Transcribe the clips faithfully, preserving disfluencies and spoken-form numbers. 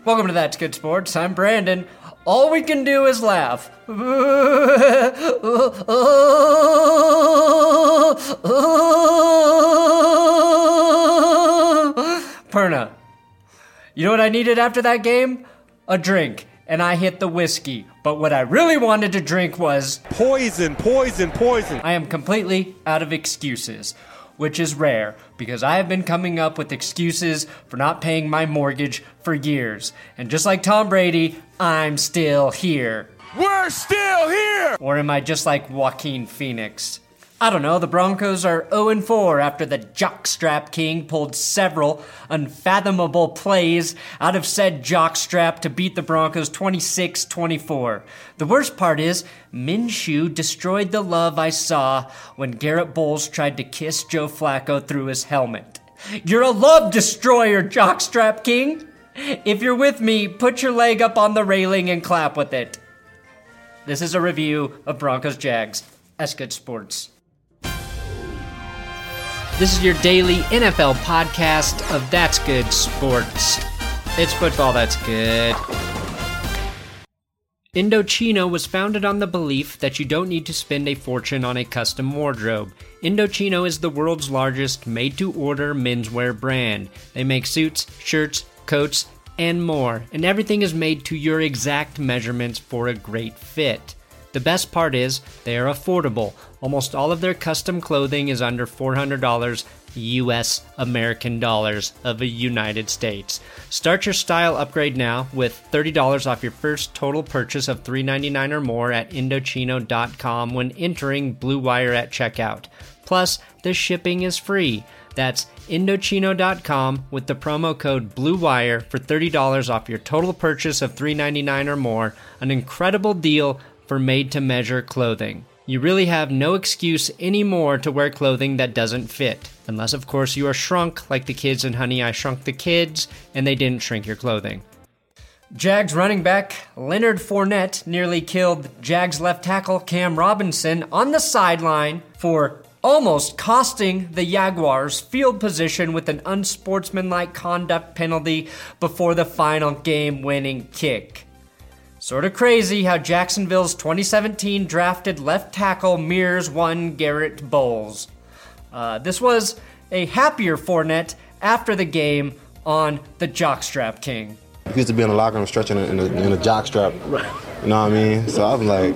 Welcome to That's Good Sports. I'm Brandon. All we can do is laugh. Perna. You know what I needed after that game? A drink. And I hit the whiskey. But what I really wanted to drink was... Poison, poison, poison. I am completely out of excuses, which is rare because I have been coming up with excuses for not paying my mortgage for years. And just like Tom Brady, I'm still here. We're still here! Or am I just like Joaquin Phoenix? I don't know, the Broncos are oh and four after the jockstrap king pulled several unfathomable plays out of said jockstrap to beat the Broncos twenty-six twenty-four. The worst part is, Minshew destroyed the love I saw when Garrett Bowles tried to kiss Joe Flacco through his helmet. You're a love destroyer, jockstrap king! If you're with me, put your leg up on the railing and clap with it. This is a review of Broncos Jags. That's Good Sports. This is your daily N F L podcast of That's Good Sports. It's football that's good. Indochino was founded on the belief that you don't need to spend a fortune on a custom wardrobe. Indochino is the world's largest made-to-order menswear brand. They make suits, shirts, coats, and more, and everything is made to your exact measurements for a great fit. The best part is, they are affordable. Almost all of their custom clothing is under four hundred dollars U S American dollars of the United States. Start your style upgrade now with thirty dollars off your first total purchase of three ninety-nine or more at Indochino dot com when entering Blue Wire at checkout. Plus, the shipping is free. That's Indochino dot com with the promo code BLUEWIRE for thirty dollars off your total purchase of three ninety-nine or more. An incredible deal for made-to-measure clothing. You really have no excuse anymore to wear clothing that doesn't fit. Unless, of course, you are shrunk like the kids in Honey, I Shrunk the Kids, and they didn't shrink your clothing. Jags running back Leonard Fournette nearly killed Jags left tackle Cam Robinson on the sideline for almost costing the Jaguars field position with an unsportsmanlike conduct penalty before the final game-winning kick. Sort of crazy how Jacksonville's twenty seventeen drafted left tackle mirrors one Garrett Bowles. Uh, this was a happier Fournette after the game on the Jockstrap King. He used to be in the locker room stretching in a, in a jockstrap. You know what I mean? So I was like,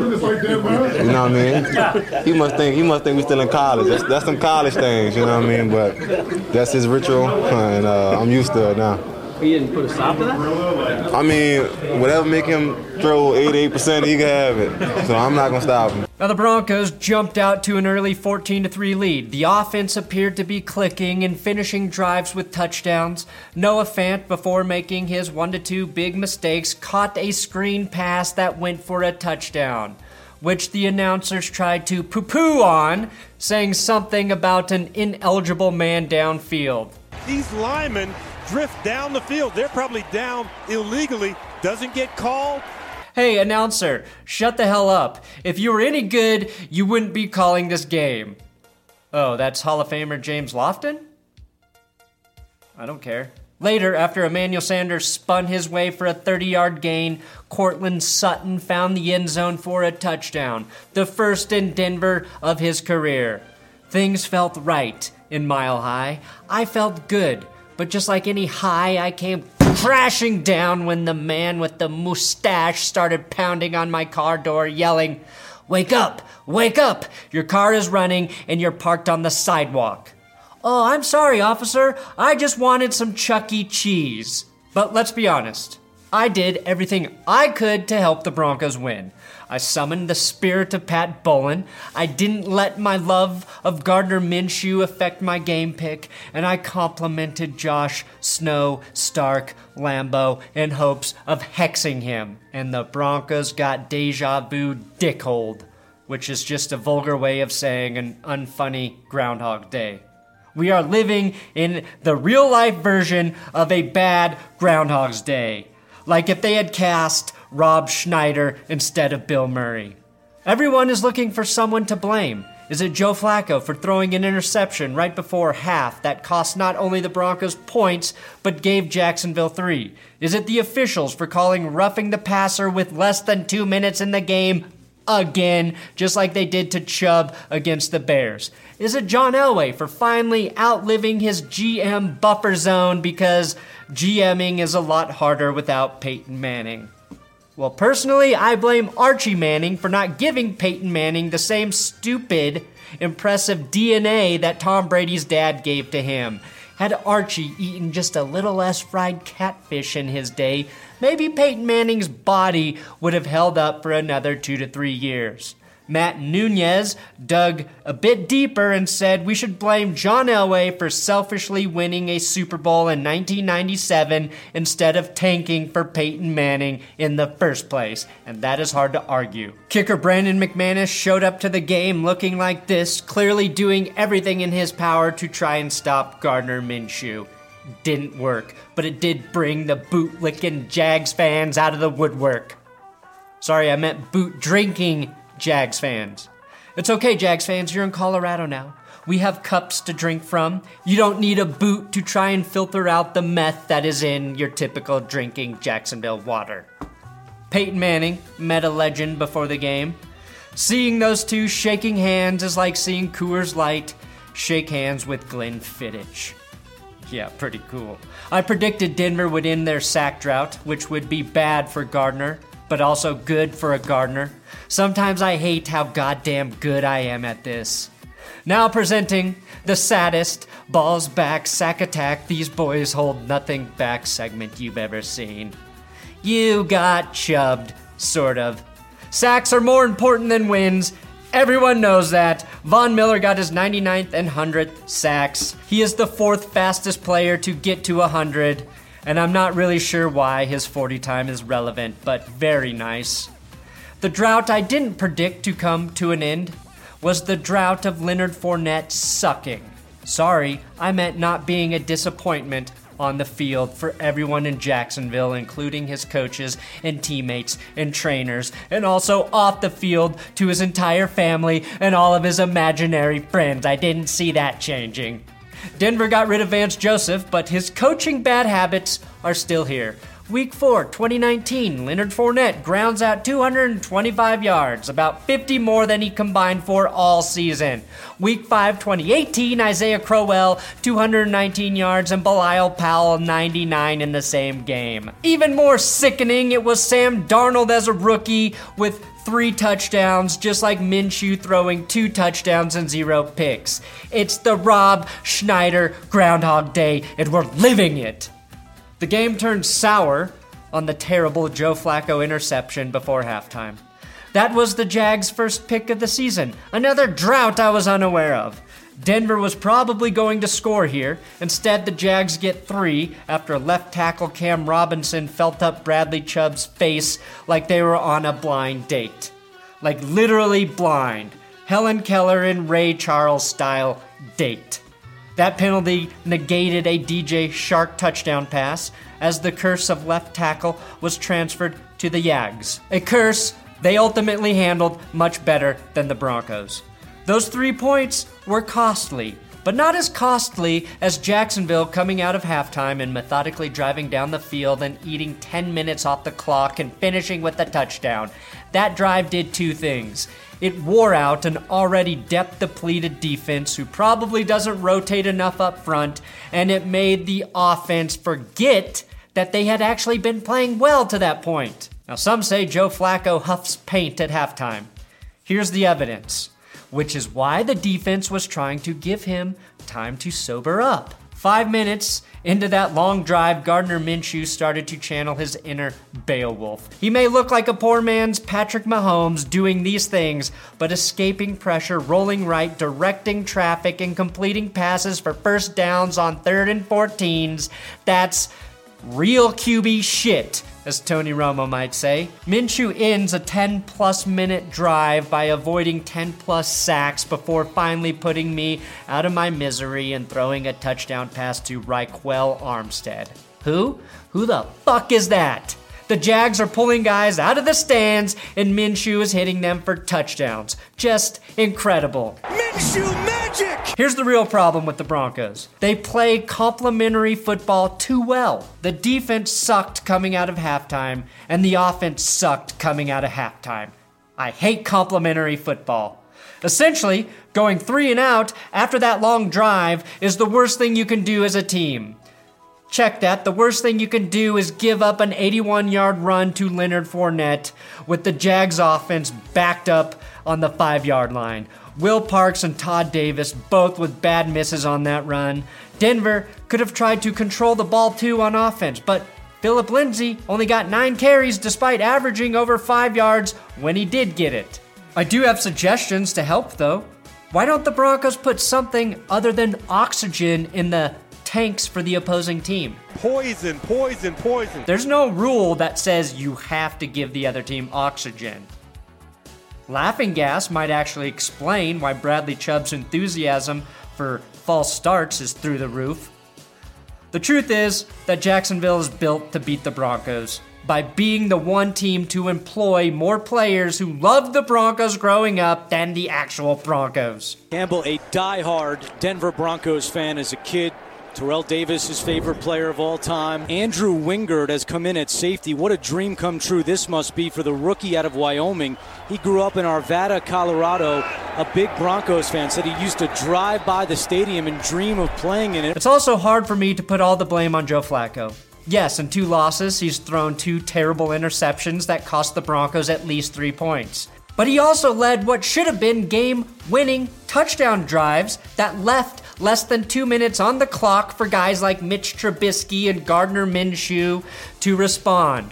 you know what I mean? He must think he must think we still in college. That's, that's some college things, you know what I mean? But that's his ritual, and uh, I'm used to it now. You didn't put a stop to that? I mean, whatever make him throw eighty-eight percent, he can have it. So I'm not going to stop him. Now the Broncos jumped out to an early fourteen to three lead. The offense appeared to be clicking and finishing drives with touchdowns. Noah Fant, before making his one to two big mistakes, caught a screen pass that went for a touchdown, which the announcers tried to poo-poo on, saying something about an ineligible man downfield. These linemen drift down the field. They're probably down illegally. Doesn't get called. Hey, announcer, shut the hell up. If you were any good, you wouldn't be calling this game. Oh, that's Hall of Famer James Lofton? I don't care. Later, after Emmanuel Sanders spun his way for a thirty-yard gain, Cortland Sutton found the end zone for a touchdown, the first in Denver of his career. Things felt right in Mile High. I felt good. But just like any high, I came crashing down when the man with the mustache started pounding on my car door, yelling, "Wake up! Wake up! Your car is running and you're parked on the sidewalk." "Oh, I'm sorry, officer. I just wanted some Chuck E. Cheese." But let's be honest. I did everything I could to help the Broncos win. I summoned the spirit of Pat Bowlen. I didn't let my love of Gardner Minshew affect my game pick, and I complimented Josh Snow, Stark, Lambeau in hopes of hexing him. And the Broncos got deja vu dickhold, which is just a vulgar way of saying an unfunny Groundhog Day. We are living in the real-life version of a bad Groundhog's Day. Like if they had cast Rob Schneider instead of Bill Murray. Everyone is looking for someone to blame. Is it Joe Flacco for throwing an interception right before half that cost not only the Broncos points, but gave Jacksonville three? Is it the officials for calling roughing the passer with less than two minutes in the game again, just like they did to Chubb against the Bears? Is it John Elway for finally outliving his G M buffer zone because GMing is a lot harder without Peyton Manning? Well, personally, I blame Archie Manning for not giving Peyton Manning the same stupid, impressive D N A that Tom Brady's dad gave to him. Had Archie eaten just a little less fried catfish in his day, maybe Peyton Manning's body would have held up for another two to three years. Matt Nunez dug a bit deeper and said we should blame John Elway for selfishly winning a Super Bowl in nineteen ninety-seven instead of tanking for Peyton Manning in the first place, and that is hard to argue. Kicker Brandon McManus showed up to the game looking like this, clearly doing everything in his power to try and stop Gardner Minshew. Didn't work, but it did bring the boot-licking Jags fans out of the woodwork. Sorry, I meant boot-drinking Jags fans. It's okay, Jags fans, you're in Colorado now. We have cups to drink from. You don't need a boot to try and filter out the meth that is in your typical drinking Jacksonville water. Peyton Manning met a legend before the game. Seeing those two shaking hands is like seeing Coors Light shake hands with Glenn Fittich. Yeah, pretty cool. I predicted Denver would end their sack drought, which would be bad for Gardner, but also good for a gardener. Sometimes I hate how goddamn good I am at this. Now presenting the saddest balls back sack attack these boys hold nothing back segment you've ever seen. You got chubbed, sort of. Sacks are more important than wins. Everyone knows that. Von Miller got his ninety-ninth and one hundredth sacks. He is the fourth fastest player to get to one hundred. And I'm not really sure why his forty time is relevant, but very nice. The drought I didn't predict to come to an end was the drought of Leonard Fournette sucking. Sorry, I meant not being a disappointment on the field for everyone in Jacksonville, including his coaches and teammates and trainers, and also off the field to his entire family and all of his imaginary friends. I didn't see that changing. Denver got rid of Vance Joseph, but his coaching bad habits are still here. Week four, twenty nineteen, Leonard Fournette grounds out two hundred twenty-five yards, about fifty more than he combined for all season. Week five, twenty eighteen, Isaiah Crowell, two hundred nineteen yards, and Bilal Powell, ninety-nine in the same game. Even more sickening, it was Sam Darnold as a rookie with three touchdowns, just like Minshew throwing two touchdowns and zero picks. It's the Rob Schneider Groundhog Day, and we're living it. The game turned sour on the terrible Joe Flacco interception before halftime. That was the Jags' first pick of the season, another drought I was unaware of. Denver was probably going to score here. Instead, the Jags get three after left tackle Cam Robinson felt up Bradley Chubb's face like they were on a blind date. Like literally blind. Helen Keller and Ray Charles style date. That penalty negated a D J Shark touchdown pass as the curse of left tackle was transferred to the Jags. A curse they ultimately handled much better than the Broncos. Those three points were costly, but not as costly as Jacksonville coming out of halftime and methodically driving down the field and eating ten minutes off the clock and finishing with a touchdown. That drive did two things. It wore out an already depth-depleted defense who probably doesn't rotate enough up front, and it made the offense forget that they had actually been playing well to that point. Now, some say Joe Flacco huffs paint at halftime. Here's the evidence, which is why the defense was trying to give him time to sober up. Five minutes into that long drive, Gardner Minshew started to channel his inner Beowulf. He may look like a poor man's Patrick Mahomes doing these things, but escaping pressure, rolling right, directing traffic, and completing passes for first downs on third and fourteens, that's real Q B shit, as Tony Romo might say. Minshew ends a ten-plus minute drive by avoiding ten-plus sacks before finally putting me out of my misery and throwing a touchdown pass to Raquel Armstead. Who? Who the fuck is that? The Jags are pulling guys out of the stands, and Minshew is hitting them for touchdowns. Just incredible. Minshew magic! Here's the real problem with the Broncos. They play complementary football too well. The defense sucked coming out of halftime, and the offense sucked coming out of halftime. I hate complementary football. Essentially, going three and out after that long drive is the worst thing you can do as a team. Check that. The worst thing you can do is give up an eighty-one-yard run to Leonard Fournette with the Jags offense backed up on the five-yard line. Will Parks and Todd Davis both with bad misses on that run. Denver could have tried to control the ball too on offense, but Phillip Lindsay only got nine carries despite averaging over five yards when he did get it. I do have suggestions to help though. Why don't the Broncos put something other than oxygen in the tanks for the opposing team? Poison, poison, poison. There's no rule that says you have to give the other team oxygen. Laughing gas might actually explain why Bradley Chubb's enthusiasm for false starts is through the roof. The truth is that Jacksonville is built to beat the Broncos by being the one team to employ more players who loved the Broncos growing up than the actual Broncos. Campbell, a diehard Denver Broncos fan as a kid. Terrell Davis, his favorite player of all time. Andrew Wingard has come in at safety. What a dream come true this must be for the rookie out of Wyoming. He grew up in Arvada, Colorado. A big Broncos fan, said he used to drive by the stadium and dream of playing in it. It's also hard for me to put all the blame on Joe Flacco. Yes, in two losses, he's thrown two terrible interceptions that cost the Broncos at least three points. But he also led what should have been game-winning touchdown drives that left less than two minutes on the clock for guys like Mitch Trubisky and Gardner Minshew to respond.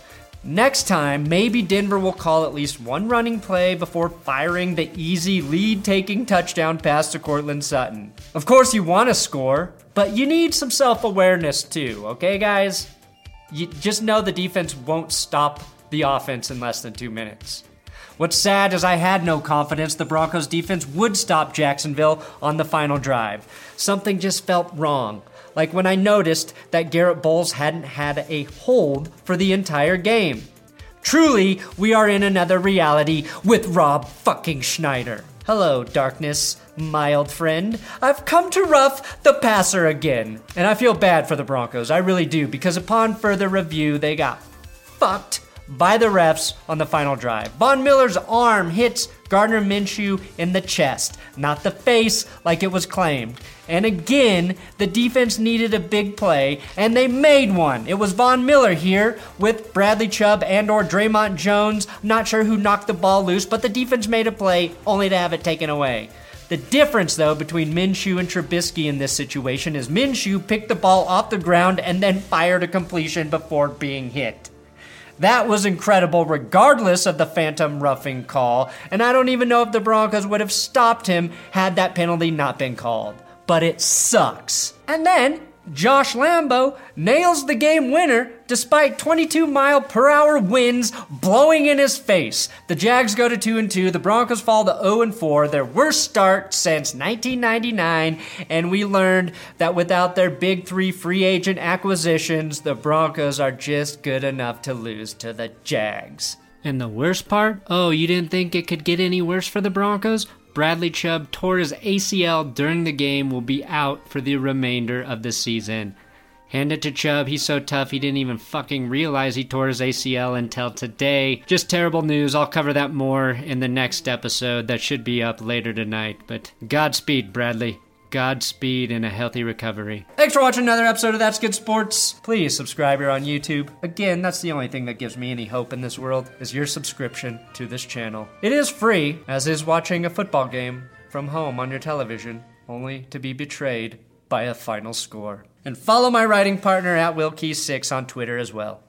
Next time, maybe Denver will call at least one running play before firing the easy lead-taking touchdown pass to Courtland Sutton. Of course, you want to score, but you need some self-awareness too, okay, guys? You just know the defense won't stop the offense in less than two minutes. What's sad is I had no confidence the Broncos defense would stop Jacksonville on the final drive. Something just felt wrong. Like when I noticed that Garrett Bowles hadn't had a hold for the entire game. Truly, we are in another reality with Rob fucking Schneider. Hello, darkness, my old friend. I've come to rough the passer again. And I feel bad for the Broncos, I really do, because upon further review, they got fucked by the refs on the final drive. Von Miller's arm hits Gardner Minshew in the chest, not the face like it was claimed. And again, the defense needed a big play, and they made one. It was Von Miller here with Bradley Chubb and or Draymond Jones. Not sure who knocked the ball loose, but the defense made a play only to have it taken away. The difference, though, between Minshew and Trubisky in this situation is Minshew picked the ball off the ground and then fired a completion before being hit. That was incredible regardless of the phantom roughing call, and I don't even know if the Broncos would have stopped him had that penalty not been called. But it sucks. And then, Josh Lambo nails the game winner despite twenty-two mile per hour winds blowing in his face. The Jags go to two and two, the Broncos fall to oh and four, their worst start since nineteen ninety-nine, and we learned that without their big three free agent acquisitions, the Broncos are just good enough to lose to the Jags. And the worst part? Oh, you didn't think it could get any worse for the Broncos? Bradley Chubb tore his A C L during the game, will be out for the remainder of the season. Hand it to Chubb, he's so tough he didn't even fucking realize he tore his A C L until today. Just terrible news, I'll cover that more in the next episode that should be up later tonight. But Godspeed, Bradley. Godspeed and a healthy recovery. Thanks for watching another episode of That's Good Sports. Please subscribe here on YouTube. Again, that's the only thing that gives me any hope in this world, is your subscription to this channel. It is free, as is watching a football game from home on your television, only to be betrayed by a final score. And follow my writing partner at Will Key six on Twitter as well.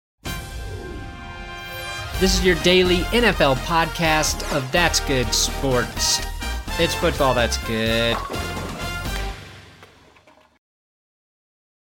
This is your daily N F L podcast of That's Good Sports. It's football that's good.